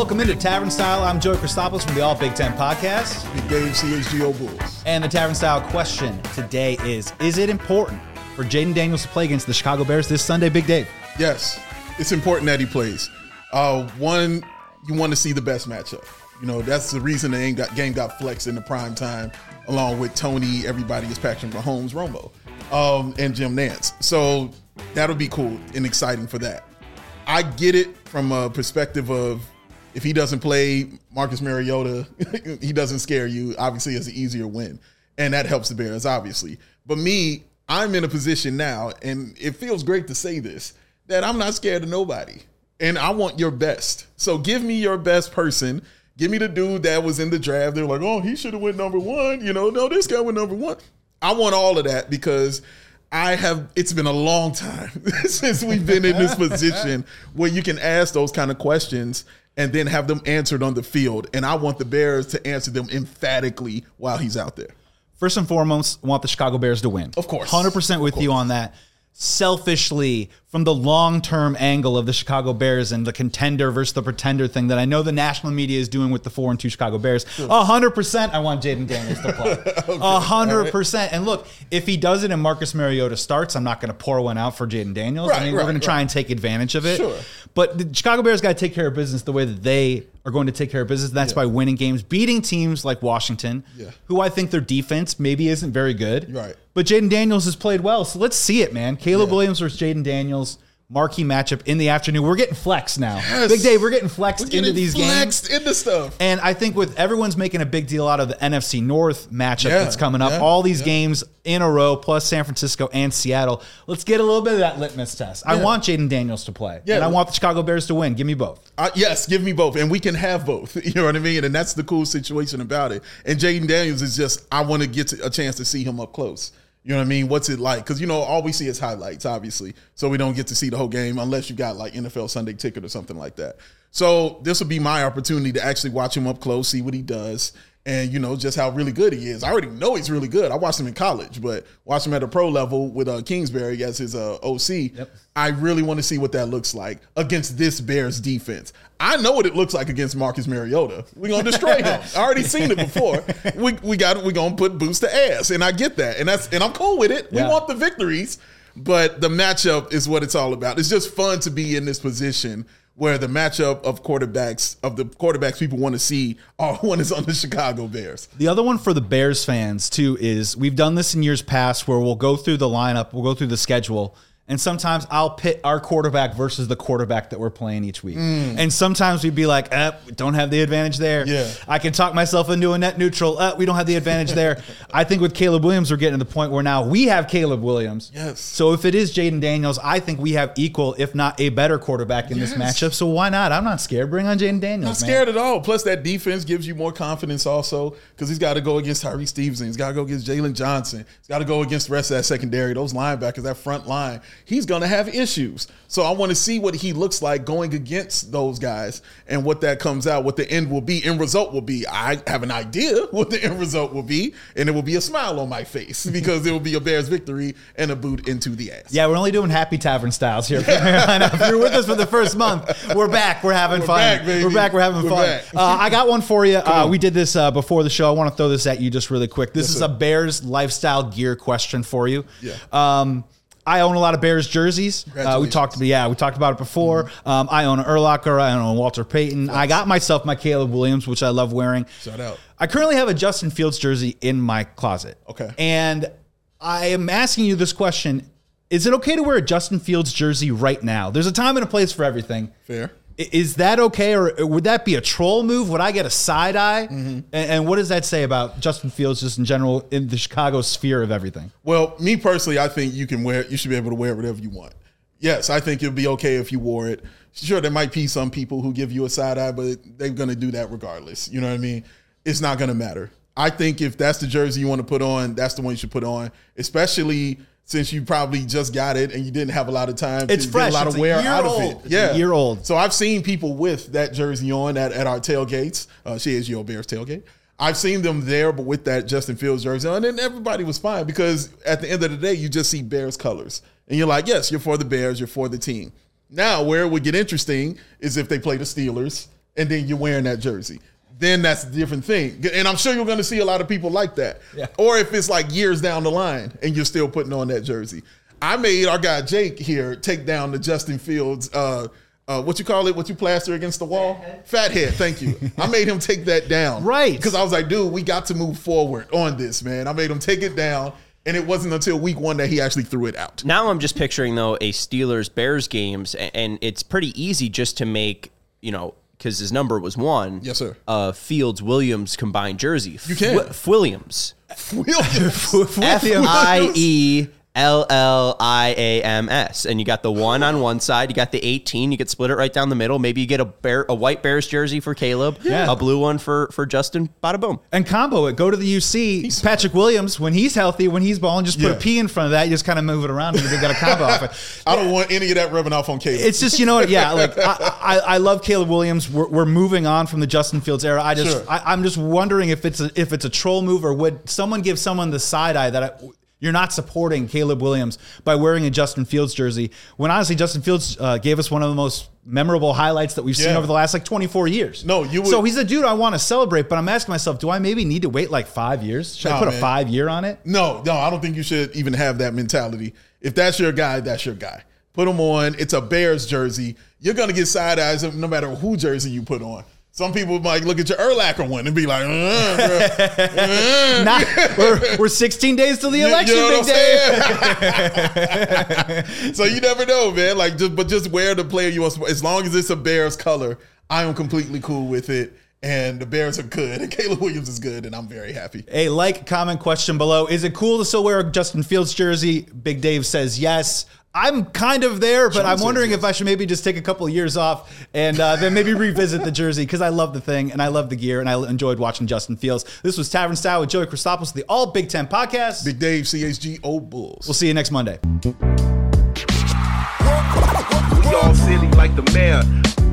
Welcome into Tavern Style. I'm Joey Christopoulos from the All Big Ten Podcast. Big Dave, CHGO Bulls. And the Tavern Style question today is it important for Jayden Daniels to play against the Chicago Bears this Sunday, Big Dave? Yes, it's important that he plays. One, you want to see the best matchup. You know, that's the reason the game got flexed in the prime time, along with Tony, everybody is Patrick Mahomes, Romo, and Jim Nance. So that'll be cool and exciting for that. I get it from a perspective of if he doesn't play Marcus Mariota, he doesn't scare you. Obviously, it's an easier win, and that helps the Bears, obviously. But me, I'm in a position now, and it feels great to say this, that I'm not scared of nobody, and I want your best. So give me your best person. Give me the dude that was in the draft. They're like, oh, he should have went number one. You know, no, this guy went number one. I want all of that because it's been a long time since we've been in this position where you can ask those kind of questions and then have them answered on the field. And I want the Bears to answer them emphatically while he's out there. First and foremost, I want the Chicago Bears to win. Of course. 100% with you on that. Selfishly, from the long-term angle of the Chicago Bears and the contender versus the pretender thing that I know the national media is doing with the 4-2 Chicago Bears, 100% I want Jayden Daniels to play. 100%. Right. And look, if he does it and Marcus Mariota starts, I'm not going to pour one out for Jayden Daniels. We're going to try and take advantage of it. Sure. But the Chicago Bears got to take care of business the way that they are going to take care of business. That's by winning games, beating teams like Washington, who I think their defense maybe isn't very good. Right. But Jayden Daniels has played well, so let's see it, man. Caleb Williams versus Jayden Daniels, marquee matchup in the afternoon. We're getting flexed now. Yes. Big Dave, we're getting flexed into these games. Flexed into stuff. And I think with everyone's making a big deal out of the NFC North matchup that's coming up, all these games in a row, plus San Francisco and Seattle, let's get a little bit of that litmus test. I want Jayden Daniels to play, and I want the Chicago Bears to win. Give me both. Yes, give me both, and we can have both. You know what I mean? And that's the cool situation about it. And Jayden Daniels is just, I want to get a chance to see him up close. You know what I mean? What's it like? Because, you know, all we see is highlights, obviously. So we don't get to see the whole game unless you got like NFL Sunday Ticket or something like that. So this will be my opportunity to actually watch him up close, see what he does, and, you know, just how really good he is. I already know he's really good. I watched him in college, but watched him at a pro level with Kingsbury as his OC. Yep. I really want to see what that looks like against this Bears defense. I know what it looks like against Marcus Mariota. We're going to destroy him. I already seen it before. We're going to put boots to ass, and I get that. And I'm cool with it. We want the victories, but the matchup is what it's all about. It's just fun to be in this position where the matchup of the quarterbacks people want to see, one is on the Chicago Bears. The other one for the Bears fans, too, is we've done this in years past where we'll go through the lineup, we'll go through the schedule, and sometimes I'll pit our quarterback versus the quarterback that we're playing each week. And sometimes we'd be like, we don't have the advantage there. Yeah. I can talk myself into a net neutral. We don't have the advantage there. I think with Caleb Williams, we're getting to the point where now we have Caleb Williams. Yes. So if it is Jayden Daniels, I think we have equal, if not a better quarterback in this matchup. So why not? I'm not scared. Bring on Jayden Daniels, Not scared at all. Plus that defense gives you more confidence also because he's got to go against Tyree Stevenson. He's got to go against Jalen Johnson. He's got to go against the rest of that secondary, those linebackers, that front line. He's going to have issues. So I want to see what he looks like going against those guys and what that comes out, what the end result will be. I have an idea what the end result will be, and it will be a smile on my face because it will be a Bears victory and a boot into the ass. Yeah, we're only doing happy tavern styles here. If you're with us for the first month, we're back. We're having fun. We're back. We're having fun. I got one for you. We did this before the show. I want to throw this at you just really quick. This is a Bears lifestyle gear question for you. Yeah. I own a lot of Bears jerseys. We talked about it before. I own an Urlacher. I own a Walter Payton. I got myself my Caleb Williams, which I love wearing. Shout out. I currently have a Justin Fields jersey in my closet. Okay. And I am asking you this question. Is it okay to wear a Justin Fields jersey right now? There's a time and a place for everything. Fair. Is that okay, or would that be a troll move? Would I get a side eye? And what does that say about Justin Fields just in general in the Chicago sphere of everything? Well, me personally, I think you should be able to wear whatever you want. Yes, I think it'd be okay if you wore it. Sure, there might be some people who give you a side eye, but they're going to do that regardless. You know what I mean? It's not going to matter. I think if that's the jersey you want to put on, that's the one you should put on, especially since you probably just got it and you didn't have a lot of time it's to fresh. get a lot of wear out of it. It's a year old. So I've seen people with that jersey on at our tailgates. CHGO Bears tailgate. I've seen them there, but with that Justin Fields jersey on, and everybody was fine because at the end of the day, you just see Bears colors. And you're like, yes, you're for the Bears, you're for the team. Now, where it would get interesting is if they play the Steelers and then you're wearing that jersey. Then that's a different thing. And I'm sure you're going to see a lot of people like that. Yeah. Or if it's like years down the line and you're still putting on that jersey. I made our guy Jake here take down the Justin Fields, what you call it, what you plaster against the wall? Fathead, thank you. I made him take that down. Right. Because I was like, dude, we got to move forward on this, man. I made him take it down. And it wasn't until week 1 that he actually threw it out. Now I'm just picturing, though, a Steelers-Bears games, and it's pretty easy just to make, because his number was 1. Yes, sir. Fields-Williams combined jersey. You can. Williams. F-I-E-L-L-I-A-M-S. And you got the 1 on one side. You got the 18. You could split it right down the middle. Maybe you get a white Bears jersey for Caleb. Yeah. A blue one for Justin. Bada boom. And combo it. Go to the UC. Patrick Williams, when he's healthy, when he's balling, just put a P in front of that. You just kind of move it around and you got a combo off it. I don't want any of that rubbing off on Caleb. It's just, like I love Caleb Williams. We're moving on from the Justin Fields era. I'm just wondering if it's a troll move, or would someone give someone the side eye that you're not supporting Caleb Williams by wearing a Justin Fields jersey, when honestly Justin Fields gave us one of the most memorable highlights that we've seen over the last 24 years. No, you would. So he's a dude I want to celebrate, but I'm asking myself, do I maybe need to wait like 5 years? Should I put a 5-year on it? No, I don't think you should even have that mentality. If that's your guy, that's your guy. Put him on. It's a Bears jersey. You're going to get side eyes no matter who jersey you put on. Some people might look at your Urlacher one and be like, we're 16 days till the election, big day. So you never know, man. Just wear the player you want. As long as it's a Bears color, I am completely cool with it. And the Bears are good, and Caleb Williams is good, and I'm very happy. Hey, comment, question below. Is it cool to still wear a Justin Fields jersey? Big Dave says yes. I'm kind of there, but I'm wondering if I should maybe just take a couple of years off and then maybe revisit the jersey, because I love the thing and I love the gear and I enjoyed watching Justin Fields. This was Tavern Style with Joey Christopoulos, the All Big Ten Podcast. Big Dave, CHGO Bulls. We'll see you next Monday. We all silly like the mayor.